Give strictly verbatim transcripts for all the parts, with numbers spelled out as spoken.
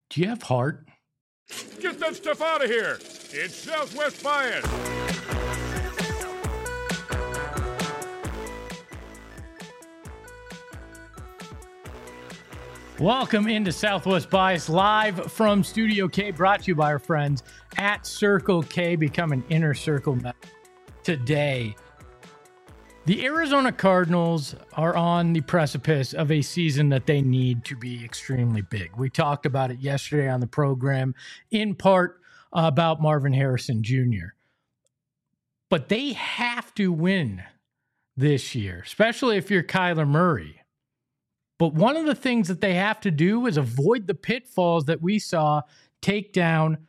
Do you have heart? Get that stuff out of here. It's Southwest Bias. Welcome into Southwest Bias, live from Studio K, brought to you by our friends at Circle K. Become an Inner Circle member today. The Arizona Cardinals are on the precipice of a season that they need to be extremely big. We talked about it yesterday on the program, in part about Marvin Harrison Junior But they have to win this year, especially if you're Kyler Murray. But one of the things that they have to do is avoid the pitfalls that we saw take down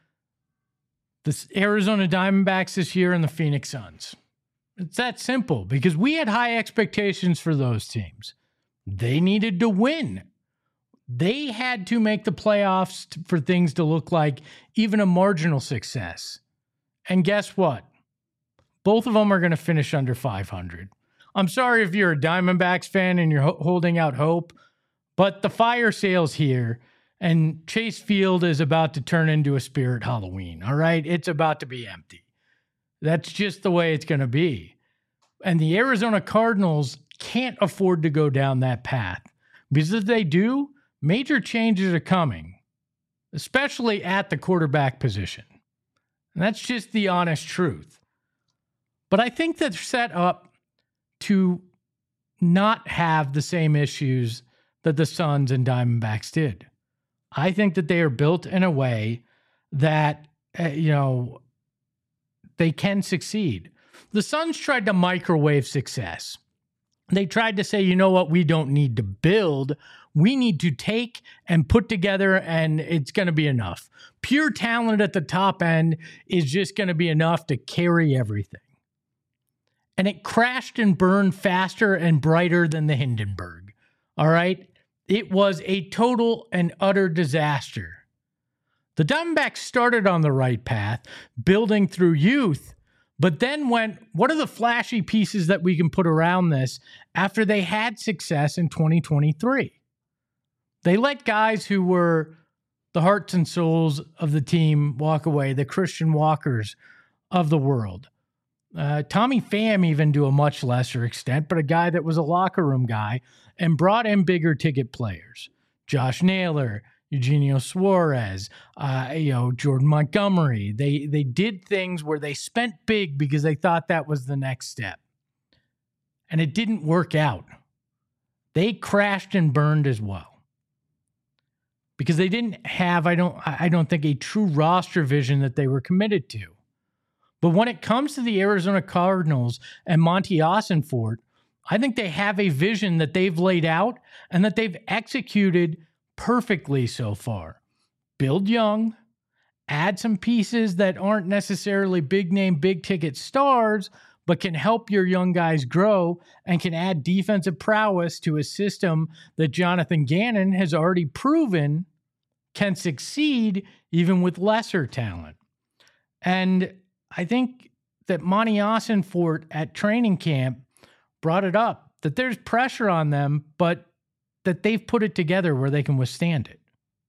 the Arizona Diamondbacks this year and the Phoenix Suns. It's that simple, because we had high expectations for those teams. They needed to win. They had to make the playoffs t- for things to look like even a marginal success. And guess what? Both of them are going to finish under five hundred. I'm sorry if you're a Diamondbacks fan and you're ho- holding out hope, but the fire sale's here, and Chase Field is about to turn into a Spirit Halloween, all right? It's about to be empty. That's just the way it's going to be. And the Arizona Cardinals can't afford to go down that path, because if they do, major changes are coming, especially at the quarterback position. And that's just the honest truth. But I think they're set up to not have the same issues that the Suns and Diamondbacks did. I think that they are built in a way that, uh, you know, they can succeed. The Suns tried to microwave success. They tried to say, you know what, we don't need to build. We need to take and put together, and it's going to be enough. Pure talent at the top end is just going to be enough to carry everything. And it crashed and burned faster and brighter than the Hindenburg. All right? It was a total and utter disaster. The Diamondbacks started on the right path, building through youth, but then went, what are the flashy pieces that we can put around this after they had success in twenty twenty-three? They let guys who were the hearts and souls of the team walk away, the Christian Walkers of the world. Uh, Tommy Pham even to a much lesser extent, but a guy that was a locker room guy, and brought in bigger ticket players. Josh Naylor, Eugenio Suarez, uh, you know, Jordan Montgomery. They they did things where they spent big because they thought that was the next step. And it didn't work out. They crashed and burned as well. Because they didn't have, I don't I don't think, a true roster vision that they were committed to. But when it comes to the Arizona Cardinals and Monty Ossenfort, I think they have a vision that they've laid out and that they've executed perfectly so far. Build young, add some pieces that aren't necessarily big name, big ticket stars, but can help your young guys grow and can add defensive prowess to a system that Jonathan Gannon has already proven can succeed even with lesser talent. And I think that Monty Ossenfort at training camp brought it up, that there's pressure on them, but that they've put it together where they can withstand it.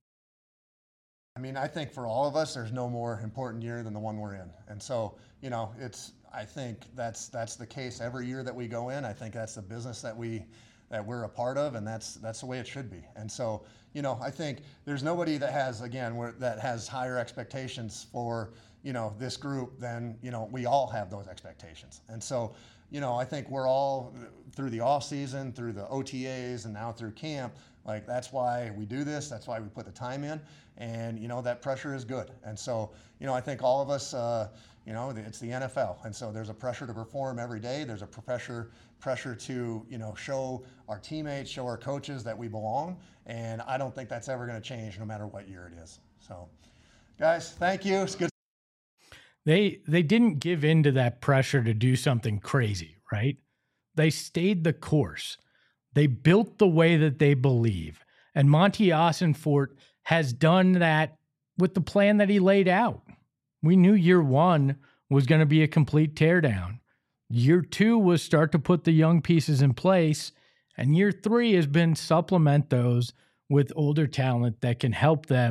I mean, I think for all of us, there's no more important year than the one we're in. And so, you know, it's, I think that's, that's the case every year that we go in. I think that's the business that we, that we're a part of, and that's, that's the way it should be. And so, you know, I think there's nobody that has, again, where, that has higher expectations for, you know, this group than, you know, we all have those expectations. And so, you know, I think we're all through the off season, through the O T As, and now through camp. Like, that's why we do this. That's why we put the time in. And, you know, that pressure is good. And so, you know, I think all of us, uh, you know, it's the N F L. And so there's a pressure to perform every day. There's a pressure, pressure to, you know, show our teammates, show our coaches that we belong. And I don't think that's ever going to change no matter what year it is. So, guys, thank you. It's good. They they didn't give in to that pressure to do something crazy, right? They stayed the course. They built the way that they believe. And Monty Ossenfort has done that with the plan that he laid out. We knew year one was going to be a complete teardown. Year two was start to put the young pieces in place. And year three has been supplement those with older talent that can help them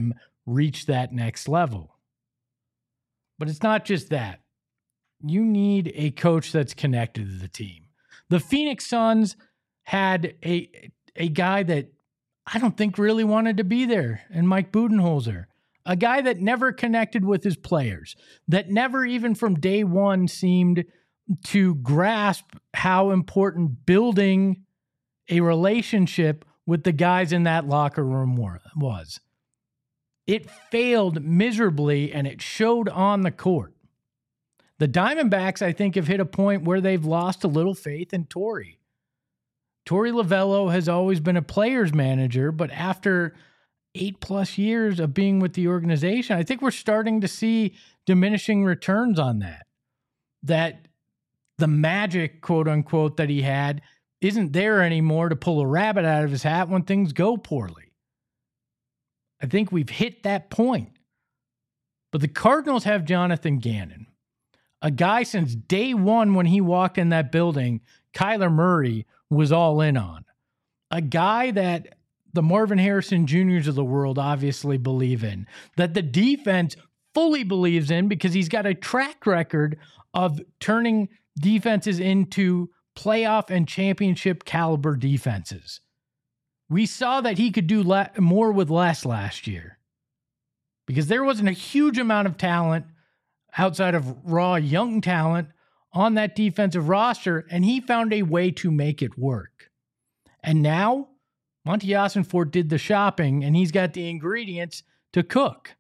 reach that next level. But it's not just that. You need a coach that's connected to the team. The Phoenix Suns had a a guy that I don't think really wanted to be there, and Mike Budenholzer, a guy that never connected with his players, that never even from day one seemed to grasp how important building a relationship with the guys in that locker room was. It failed miserably, and it showed on the court. The Diamondbacks, I think, have hit a point where they've lost a little faith in Torrey. Torey Lovullo has always been a player's manager, but after eight plus years of being with the organization, I think we're starting to see diminishing returns on that. That the magic, quote unquote, that he had isn't there anymore to pull a rabbit out of his hat when things go poorly. I think we've hit that point. But the Cardinals have Jonathan Gannon, a guy since day one when he walked in that building, Kyler Murray was all in on. A guy that the Marvin Harrison Juniors of the world obviously believe in, that the defense fully believes in because he's got a track record of turning defenses into playoff and championship caliber defenses. We saw that he could do le- more with less last year because there wasn't a huge amount of talent outside of raw young talent on that defensive roster, and he found a way to make it work. And now, Monty Ossenfort did the shopping, and he's got the ingredients to cook.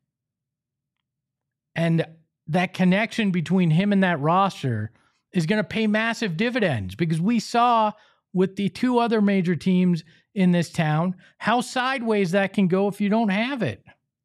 And that connection between him and that roster is going to pay massive dividends because we saw with the two other major teams in this town how sideways that can go if you don't have it.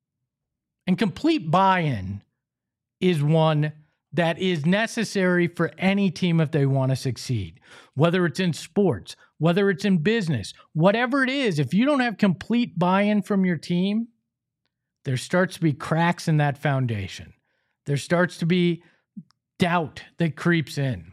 And complete buy-in is one that is necessary for any team if they want to succeed, whether it's in sports, whether it's in business, whatever it is. If you don't have complete buy-in from your team, there starts to be cracks in that foundation. There starts to be doubt that creeps in.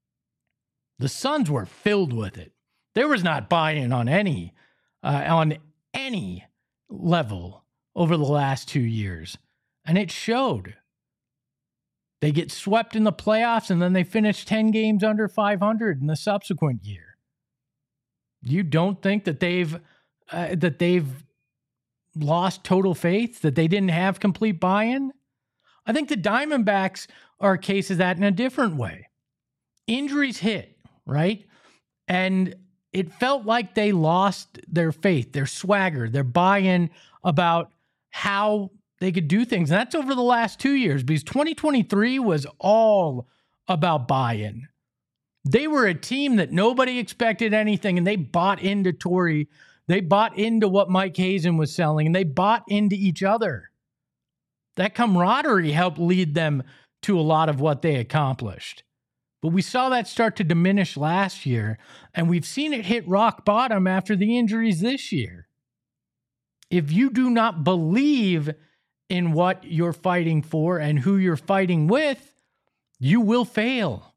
The Suns were filled with it. There was not buy-in on any, uh, on any level over the last two years, and it showed. They get swept in the playoffs, and then they finish ten games under five hundred in the subsequent year. You don't think that they've uh, that they've lost total faith, that they didn't have complete buy-in? I think the Diamondbacks are a case of that in a different way. Injuries hit, right? And it felt like they lost their faith, their swagger, their buy-in about how they could do things. And that's over the last two years because twenty twenty-three was all about buy-in. They were a team that nobody expected anything, and they bought into Torrey. They bought into what Mike Hazen was selling, and they bought into each other. That camaraderie helped lead them to a lot of what they accomplished. But we saw that start to diminish last year, and we've seen it hit rock bottom after the injuries this year. If you do not believe in what you're fighting for and who you're fighting with, you will fail.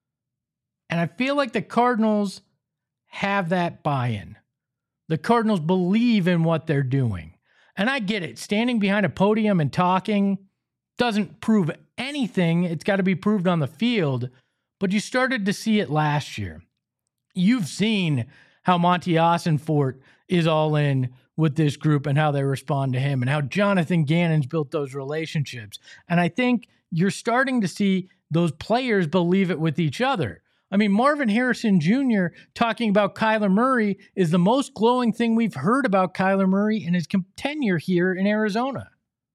And I feel like the Cardinals have that buy-in. The Cardinals believe in what they're doing. And I get it. Standing behind a podium and talking doesn't prove anything. It's got to be proved on the field. But you started to see it last year. You've seen how Monty Ossenfort is all in with this group and how they respond to him and how Jonathan Gannon's built those relationships. And I think you're starting to see those players believe it with each other. I mean, Marvin Harrison Junior talking about Kyler Murray is the most glowing thing we've heard about Kyler Murray in his tenure here in Arizona.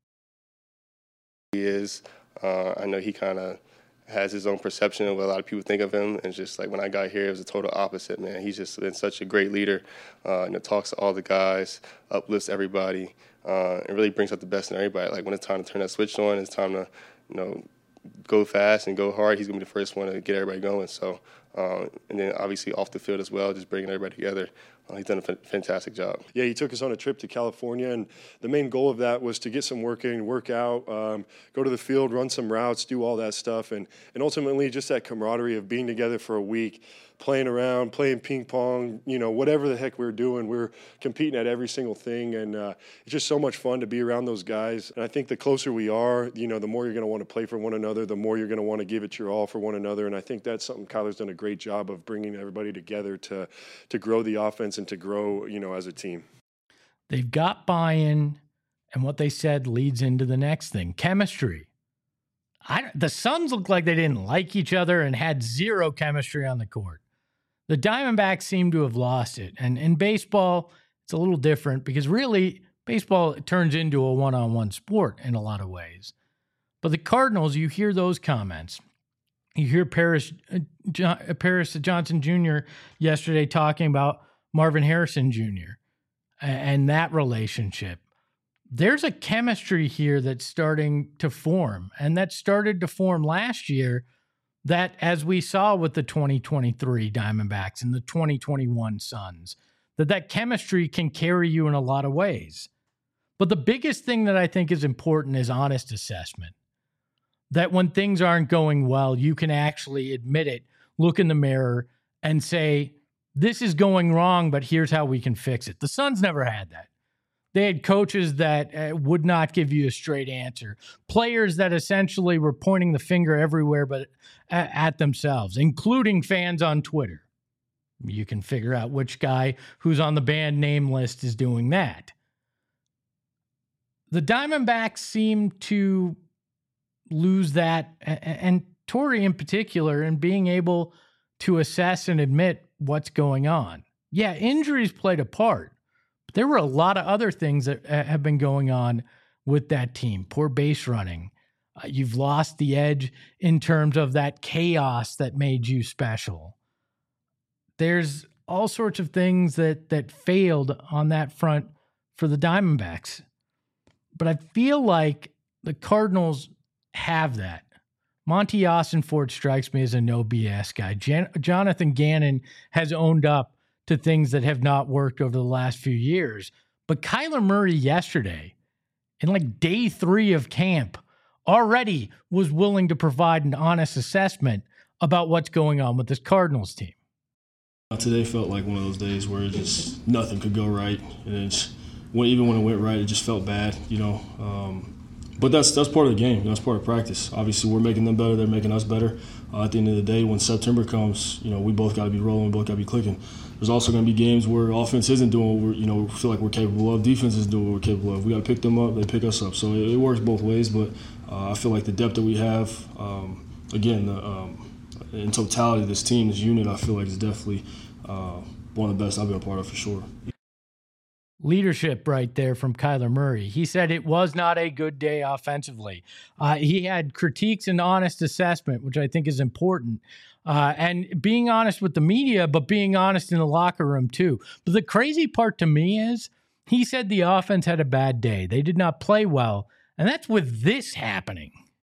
He is. Uh, I know he kind of has his own perception of what a lot of people think of him. And just like when I got here, it was a total opposite, man. He's just been such a great leader, uh, and it talks to all the guys, uplifts everybody, uh, and really brings out the best in everybody. Like when it's time to turn that switch on, it's time to, you know, go fast and go hard. He's going to be the first one to get everybody going. So, uh, and then obviously off the field as well, just bringing everybody together. Uh, he's done a f- fantastic job. Yeah, he took us on a trip to California, and the main goal of that was to get some work in, work out, um, go to the field, run some routes, do all that stuff, and, and ultimately just that camaraderie of being together for a week, playing around, playing ping pong, you know, whatever the heck we were doing, we we're competing at every single thing, and uh, it's just so much fun to be around those guys. And I think the closer we are, you know, the more you're going to want to play for one another, the more you're going to want to give it your all for one another, and I think that's something Kyler's done a great job of bringing everybody together to to grow the offense and to grow, you know, as a team. They've got buy-in, and what they said leads into the next thing, chemistry. I, the Suns looked like they didn't like each other and had zero chemistry on the court. The Diamondbacks seem to have lost it. And in baseball, it's a little different because really baseball turns into a one-on-one sport in a lot of ways. But the Cardinals, you hear those comments. You hear Paris, uh, John, uh, Paris Johnson Junior yesterday talking about Marvin Harrison Junior and that relationship. There's a chemistry here that's starting to form, and that started to form last year. That, as we saw with the twenty twenty-three Diamondbacks and the twenty twenty-one Suns, that that chemistry can carry you in a lot of ways. But the biggest thing that I think is important is honest assessment. That when things aren't going well, you can actually admit it, look in the mirror, and say, this is going wrong, but here's how we can fix it. The Suns never had that. They had coaches that uh, would not give you a straight answer. Players that essentially were pointing the finger everywhere but at, at themselves, including fans on Twitter. You can figure out which guy who's on the banned name list is doing that. The Diamondbacks seem to lose that, and Torrey in particular, in being able to assess and admit what's going on. Yeah, injuries played a part. But there were a lot of other things that have been going on with that team. Poor base running. Uh, you've lost the edge in terms of that chaos that made you special. There's all sorts of things that that failed on that front for the Diamondbacks. But I feel like the Cardinals have that. Monty Austinford strikes me as a no B S guy. Jan- Jonathan Gannon has owned up to things that have not worked over the last few years. But Kyler Murray yesterday, in like day three of camp, already was willing to provide an honest assessment about what's going on with this Cardinals team. Today felt like one of those days where it just nothing could go right. And it's, when, even when it went right, it just felt bad, you know. Um, But that's that's part of the game. That's part of practice. Obviously, we're making them better. They're making us better. Uh, at the end of the day, when September comes, you know, we both got to be rolling. We both got to be clicking. There's also going to be games where offense isn't doing what we're, you know, feel like we're capable of. Defense is doing what we're capable of. We got to pick them up. They pick us up. So it, it works both ways. But uh, I feel like the depth that we have, um, again, the, um, in totality, this team, this unit, I feel like is definitely uh, one of the best I've been a part of for sure. Leadership right there from Kyler Murray. He said it was not a good day offensively. Uh, he had critiques and honest assessment, which I think is important. Uh, and being honest with the media, but being honest in the locker room too. But the crazy part to me is he said the offense had a bad day. They did not play well. And that's with this happening.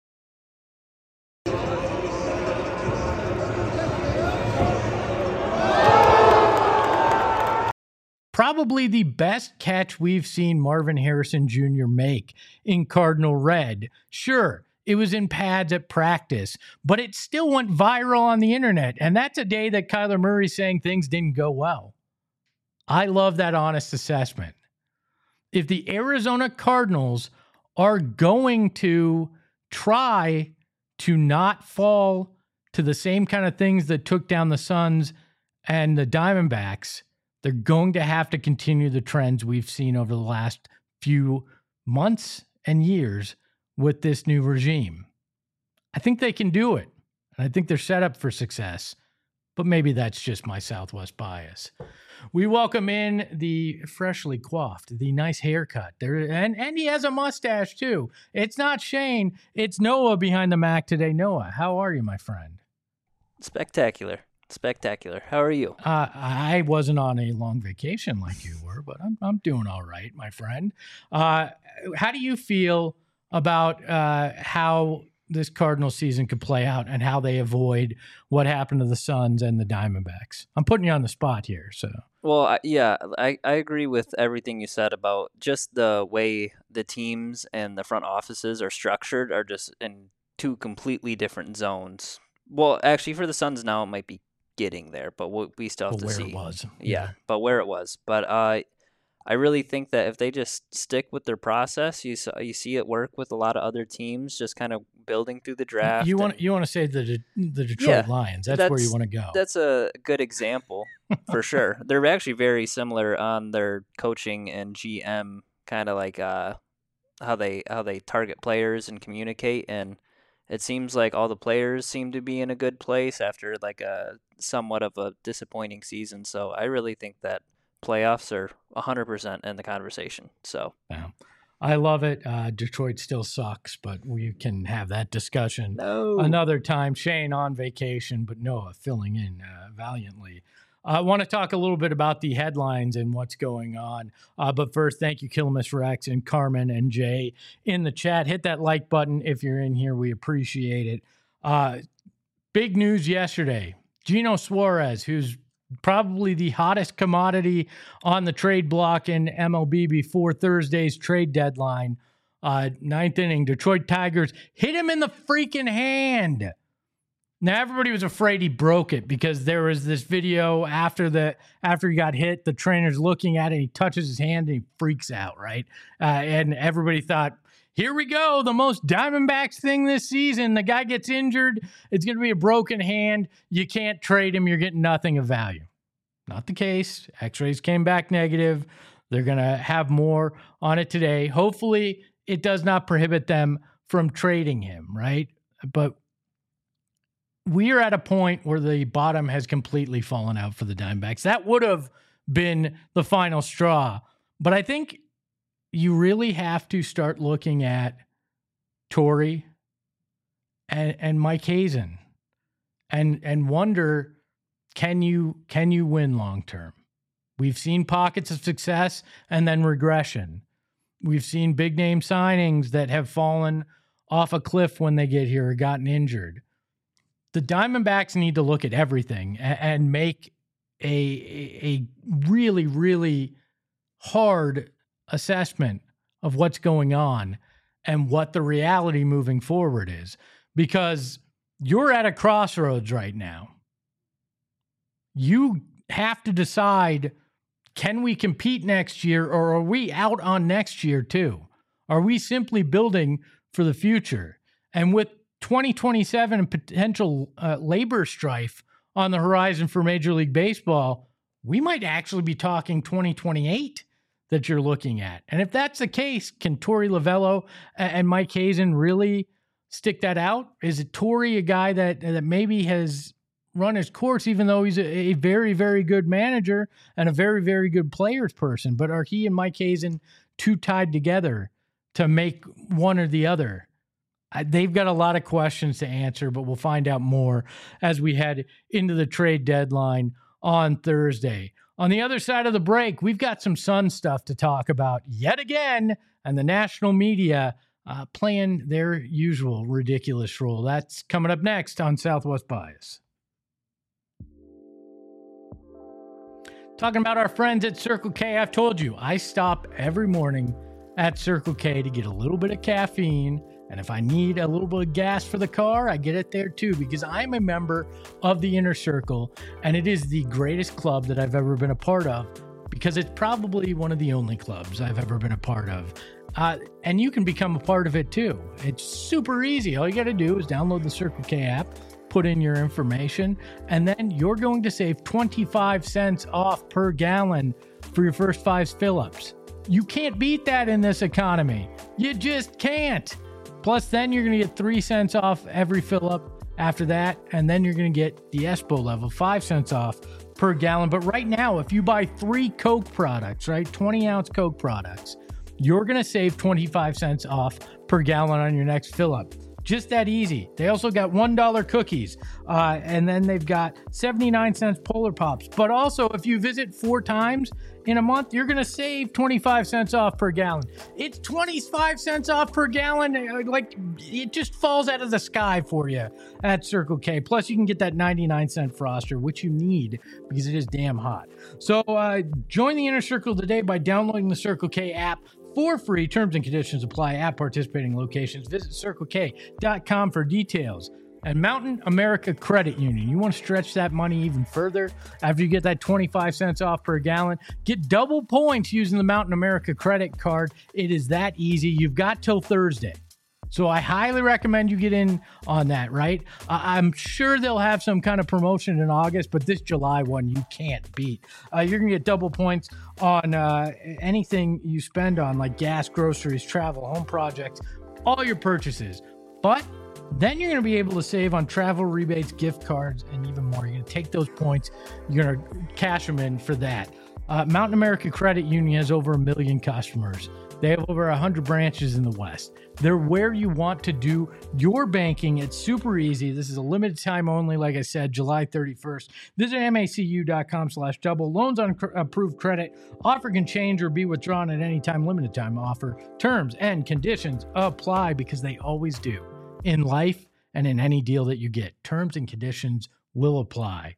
Probably the best catch we've seen Marvin Harrison Junior make in Cardinal red. Sure, it was in pads at practice, but it still went viral on the internet. And that's a day that Kyler Murray's saying things didn't go well. I love that honest assessment. If the Arizona Cardinals are going to try to not fall to the same kind of things that took down the Suns and the Diamondbacks, they're going to have to continue the trends we've seen over the last few months and years with this new regime. I think they can do it, and I think they're set up for success, but maybe that's just my Southwest bias. We welcome in the freshly coiffed, the nice haircut there, and, and he has a mustache too. It's not Shane, it's Noah behind the Mac today. Noah, how are you, my friend? Spectacular. Spectacular. How are you? Uh, I wasn't on a long vacation like you were, but I'm I'm doing all right, my friend. Uh, how do you feel about uh, how this Cardinal season could play out and how they avoid what happened to the Suns and the Diamondbacks? I'm putting you on the spot here, so Well, I, yeah, I, I agree with everything you said about just the way the teams and the front offices are structured are just in two completely different zones. Well, actually, for the Suns now, it might be getting there, but we we still have But to where see. it was. Yeah, Yeah. but where it was. But uh, I really think that if they just stick with their process, you s- you see it work with a lot of other teams, just kind of building through the draft. You want and- you want to say the De- the Detroit Yeah, Lions. That's, where you want to go. That's a good example for sure. They're actually very similar on their coaching and G M, kind of like uh, how they how they target players and communicate. And it seems like all the players seem to be in a good place after like a somewhat of a disappointing season. So I really think that playoffs are one hundred percent in the conversation. So Yeah. I love it. Uh, Detroit still sucks, but we can have that discussion no, another time. Shane on vacation, but Noah filling in uh, valiantly. I want to talk a little bit about the headlines and what's going on. Uh, but first, thank you, Killamus Rex and Carmen and Jay in the chat. Hit that like button if you're in here. We appreciate it. Uh, big news yesterday. Gino Suarez, who's probably the hottest commodity on the trade block in M L B before Thursday's trade deadline. Uh, ninth inning, Detroit Tigers hit him in the freaking hand. Now everybody was afraid he broke it because there was this video after the after he got hit. The trainer's looking at it, he touches his hand and he freaks out, right? Uh, and everybody thought, here we go, the most Diamondbacks thing this season. The guy gets injured. It's going to be a broken hand. You can't trade him. You're getting nothing of value. Not the case. X-rays came back negative. They're going to have more on it today. Hopefully, it does not prohibit them from trading him, right? But we are at a point where the bottom has completely fallen out for the Diamondbacks. That would have been the final straw. But I think you really have to start looking at Torrey and, and Mike Hazen and and wonder, can you can you win long term? We've seen pockets of success and then regression. We've seen big name signings that have fallen off a cliff when they get here or gotten injured. The Diamondbacks need to look at everything and, and make a, a a really, really hard assessment of what's going on and what the reality moving forward is, because you're at a crossroads right now. You have to decide, can we compete next year, or are we out on next year too? Are we simply building for the future? And with twenty twenty-seven and potential uh, labor strife on the horizon for Major League Baseball, we might actually be talking twenty twenty-eight that you're looking at. And if that's the case, can Torrey Lovullo and Mike Hazen really stick that out? Is it Torrey, a guy that that maybe has run his course, even though he's a, a very, very good manager and a very, very good players person? But are he and Mike Hazen too tied together to make one or the other? I, they've got a lot of questions to answer, but we'll find out more as we head into the trade deadline on Thursday. On the other side of the break, we've got some Sun stuff to talk about yet again, and the national media uh, playing their usual ridiculous role. That's coming up next on Southwest Bias. Talking about our friends at Circle K, I've told you, I stop every morning at Circle K to get a little bit of caffeine. And if I need a little bit of gas for the car, I get it there too, because I'm a member of the Inner Circle, and it is the greatest club that I've ever been a part of, because it's probably one of the only clubs I've ever been a part of. Uh, and you can become a part of it too. It's super easy. All you got to do is download the Circle K app, put in your information, and then you're going to save twenty-five cents off per gallon for your first five fill-ups. You can't beat that in this economy. You just can't. Plus, then you're going to get three cents off every fill-up after that, and then you're going to get the Espo level, five cents off per gallon. But right now, if you buy three Coke products, right, twenty-ounce Coke products, you're going to save twenty-five cents off per gallon on your next fill-up. Just that easy. They also got one dollar cookies. Uh, and then they've got seventy-nine cents Polar Pops. But also, if you visit four times in a month, you're going to save twenty-five cents off per gallon. It's twenty-five cents off per gallon. Like, it just falls out of the sky for you at Circle K. Plus, you can get that ninety-nine cent Froster, which you need because it is damn hot. So uh, join the Inner Circle today by downloading the Circle K app for free. Terms and conditions apply at participating locations. Visit circle k dot com for details. And Mountain America Credit Union. You want to stretch that money even further after you get that twenty-five cents off per gallon? Get double points using the Mountain America credit card. It is that easy. You've got till Thursday. So I highly recommend you get in on that, right? Uh, I'm sure they'll have some kind of promotion in August, but this July one you can't beat. Uh, you're going to get double points on uh, anything you spend on, like gas, groceries, travel, home projects, all your purchases. But then you're going to be able to save on travel rebates, gift cards, and even more. You're going to take those points, you're going to cash them in for that. Uh, Mountain America Credit Union has over a million customers. They have over one hundred branches in the West. They're where you want to do your banking. It's super easy. This is a limited time only, like I said, July thirty-first. Visit macu.com slash double. Loans on cr- approved credit. Offer can change or be withdrawn at any time. Limited time offer. Terms and conditions apply because they always do in life and in any deal that you get. Terms and conditions will apply.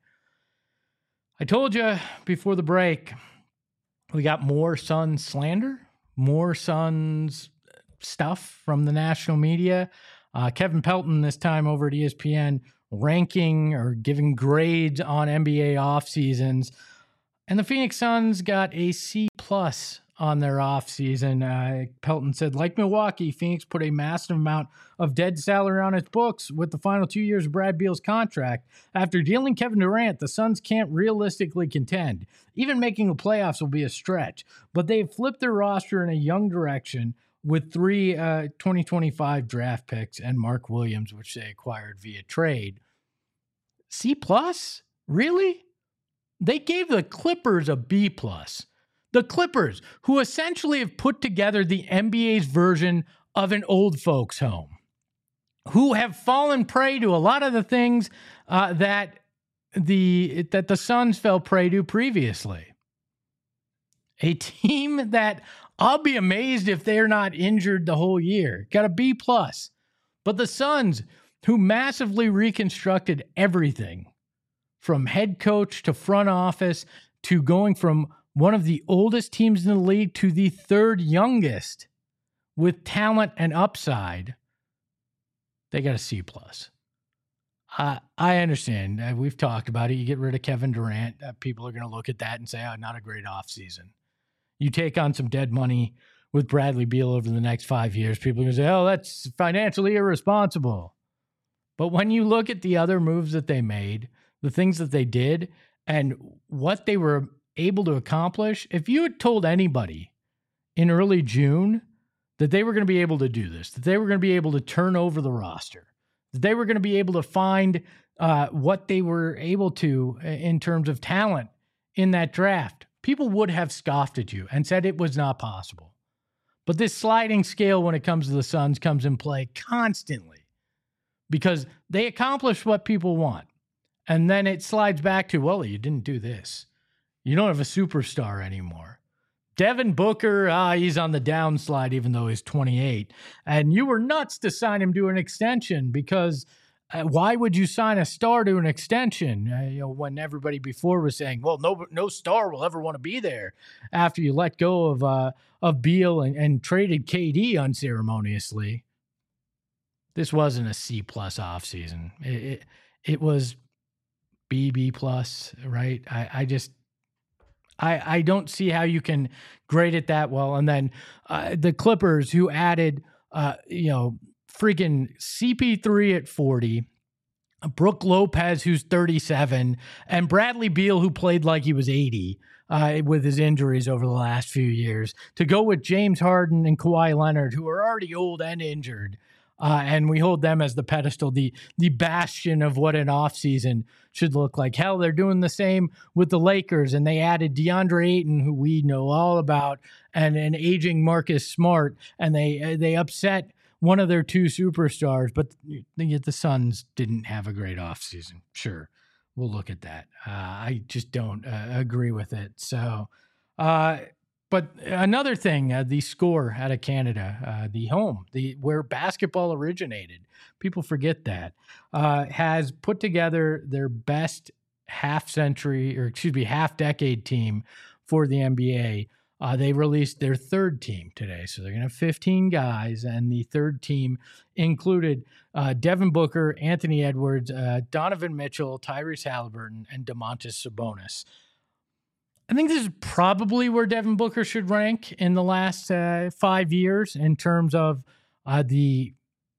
I told you before the break, we got more Suns slander, more Suns stuff from the national media. Uh, Kevin Pelton this time over at E S P N ranking or giving grades on N B A off seasons. And the Phoenix Suns got a C plus on their off season. Uh, Pelton said, like Milwaukee, Phoenix put a massive amount of dead salary on its books with the final two years of Brad Beal's contract. After dealing Kevin Durant, the Suns can't realistically contend. Even making the playoffs will be a stretch. But they've flipped their roster in a young direction with three uh, twenty twenty-five draft picks and Mark Williams, which they acquired via trade. C plus? Really? They gave the Clippers a B plus. The Clippers, who essentially have put together the N B A's version of an old folks' home, who have fallen prey to a lot of the things uh, that the that the Suns fell prey to previously. A team that I'll be amazed if they're not injured the whole year. Got a B plus. But the Suns, who massively reconstructed everything from head coach to front office to going from one of the oldest teams in the league to the third youngest with talent and upside, they got a C plus. Uh, I understand. Uh, we've talked about it. You get rid of Kevin Durant. Uh, people are going to look at that and say, oh, not a great offseason. You take on some dead money with Bradley Beal over the next five years. People are going to say, oh, that's financially irresponsible. But when you look at the other moves that they made, the things that they did, and what they were able to accomplish, if you had told anybody in early June that they were going to be able to do this, that they were going to be able to turn over the roster, that they were going to be able to find uh, what they were able to in terms of talent in that draft, people would have scoffed at you and said it was not possible. But this sliding scale when it comes to the Suns comes in play constantly because they accomplish what people want. And then it slides back to, well, you didn't do this. You don't have a superstar anymore. Devin Booker, ah, he's on the downslide even though he's twenty-eight. And you were nuts to sign him to an extension because uh, why would you sign a star to an extension? Uh, you know, when everybody before was saying, well, no no star will ever want to be there after you let go of uh, of Beal and, and traded K D unceremoniously. This wasn't a C plus offseason. It, it, it was B, B plus, right? I, I just... I, I don't see how you can grade it that well. And then uh, the Clippers, who added, uh, you know, freaking C P three at forty, Brook Lopez, who's thirty-seven, and Bradley Beal, who played like he was eighty uh, with his injuries over the last few years, to go with James Harden and Kawhi Leonard, who are already old and injured. Uh, and we hold them as the pedestal, the the bastion of what an offseason should look like. Hell, they're doing the same with the Lakers, and they added DeAndre Ayton, who we know all about, and an aging Marcus Smart, and they they upset one of their two superstars, but the, the Suns didn't have a great offseason. Sure, we'll look at that. Uh, I just don't uh, agree with it. So, uh, but another thing, uh, the score out of Canada, uh, the home, the where basketball originated, people forget that, uh, has put together their best half century, or excuse me, half decade team for the N B A. Uh, they released their third team today. So they're going to have fifteen guys, and the third team included uh, Devin Booker, Anthony Edwards, uh, Donovan Mitchell, Tyrese Halliburton, and Domantas Sabonis. I think this is probably where Devin Booker should rank in the last uh, five years in terms of uh, the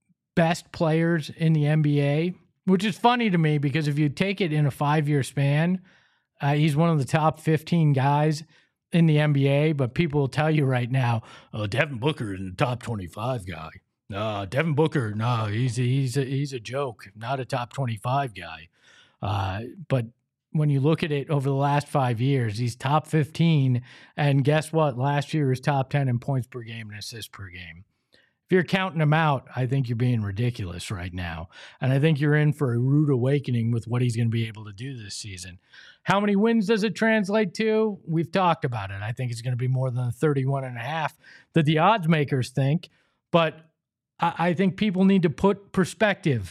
best players in the N B A, which is funny to me because if you take it in a five-year span, uh, he's one of the top fifteen guys in the N B A, but people will tell you right now, oh, Devin Booker is the top twenty-five guy. No, Devin Booker, no, he's a, he's a, he's a joke, not a top twenty-five guy. Uh, but when you look at it over the last five years, he's top fifteen, and guess what? Last year was top ten in points per game and assists per game. If you're counting him out, I think you're being ridiculous right now. And I think you're in for a rude awakening with what he's going to be able to do this season. How many wins does it translate to? We've talked about it. I think it's going to be more than the thirty-one and a half that the odds makers think. But I, I think people need to put perspective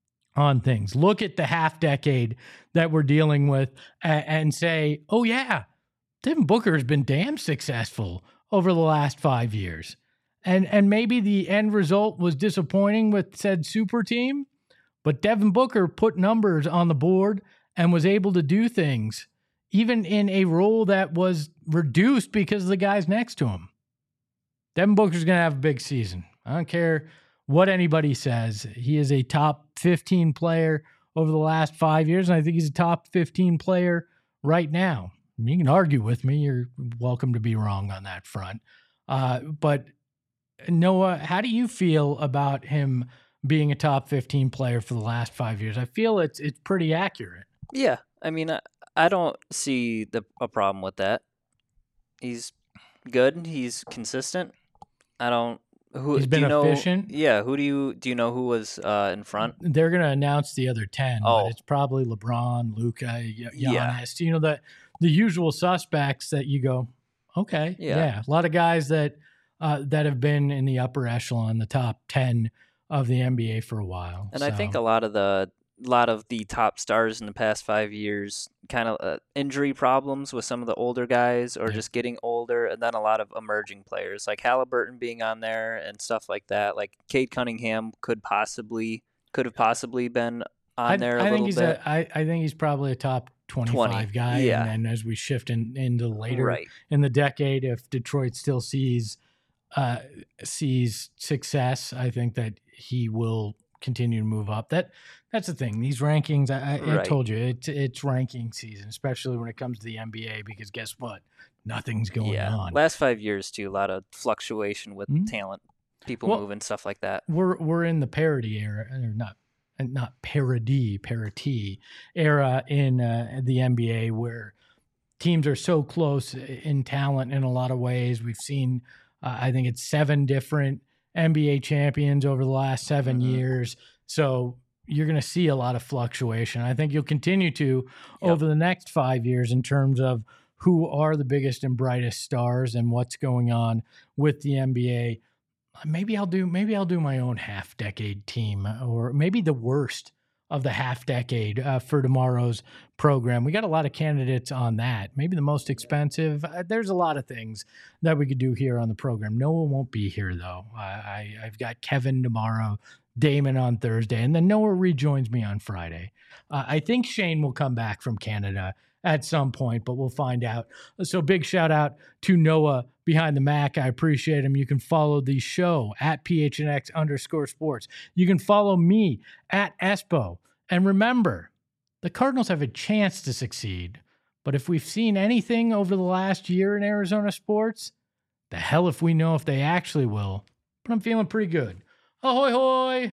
on things. Look at the half decade that we're dealing with and, and say, oh, yeah, Devin Booker has been damn successful over the last five years. And and maybe the end result was disappointing with said super team, but Devin Booker put numbers on the board and was able to do things, even in a role that was reduced because of the guys next to him. Devin Booker's going to have a big season. I don't care what anybody says. He is a top fifteen player over the last five years, and I think he's a top fifteen player right now. You can argue with me. You're welcome to be wrong on that front. Uh, but Noah, how do you feel about him being a top fifteen player for the last five years? I feel it's it's pretty accurate. Yeah, I mean, I, I don't see the a problem with that. He's good. He's consistent. I don't. Who He's been do you know, efficient. Yeah. Who do you do you know who was uh, in front? They're going to announce the other ten. Oh. But it's probably LeBron, Luka, Giannis. Yeah. You know, the the usual suspects that you go, okay, Yeah. yeah, a lot of guys that. Uh, that have been in the upper echelon, the top ten of the N B A for a while. And so. I think a lot of the lot of the top stars in the past five years, kind of uh, injury problems with some of the older guys, or Yeah. just getting older, and then a lot of emerging players like Halliburton being on there and stuff like that. Like Cade Cunningham could possibly could have possibly been on I, there a I think little he's bit. A, I, I think he's probably a top twenty-five twenty, guy. yeah. And then as we shift in, into later Right. in the decade, if Detroit still sees uh, sees success, I think that he will continue to move up. That that's the thing. These rankings, I, I, I Right. told you, it's it's ranking season, especially when it comes to the N B A, because guess what? Nothing's going yeah. on. Last five years too, a lot of fluctuation with Mhm. talent, people Well, moving, stuff like that. we're we're in the parity era, or not, and not parody, parity era in uh, the N B A, where teams are so close in talent in a lot of ways. We've seen, uh, I think it's seven different N B A champions over the last seven Mhm. years. So you're going to see a lot of fluctuation. I think you'll continue to Yep. over the next five years in terms of who are the biggest and brightest stars and what's going on with the N B A. Maybe I'll do maybe I'll do my own half decade team, or maybe the worst of the half decade uh, for tomorrow's program. We got a lot of candidates on that. Maybe the most expensive. Uh, there's a lot of things that we could do here on the program. Noah won't be here though. I, I I've got Kevin tomorrow, Damon on Thursday, and then Noah rejoins me on Friday. Uh, I think Shane will come back from Canada at some point, but we'll find out. So big shout out to Noah behind the Mac. I appreciate him. You can follow the show at P H N X underscore sports. You can follow me at Espo. And remember, the Cardinals have a chance to succeed. But if we've seen anything over the last year in Arizona sports, the hell if we know if they actually will. But I'm feeling pretty good. Ahoy, hoy!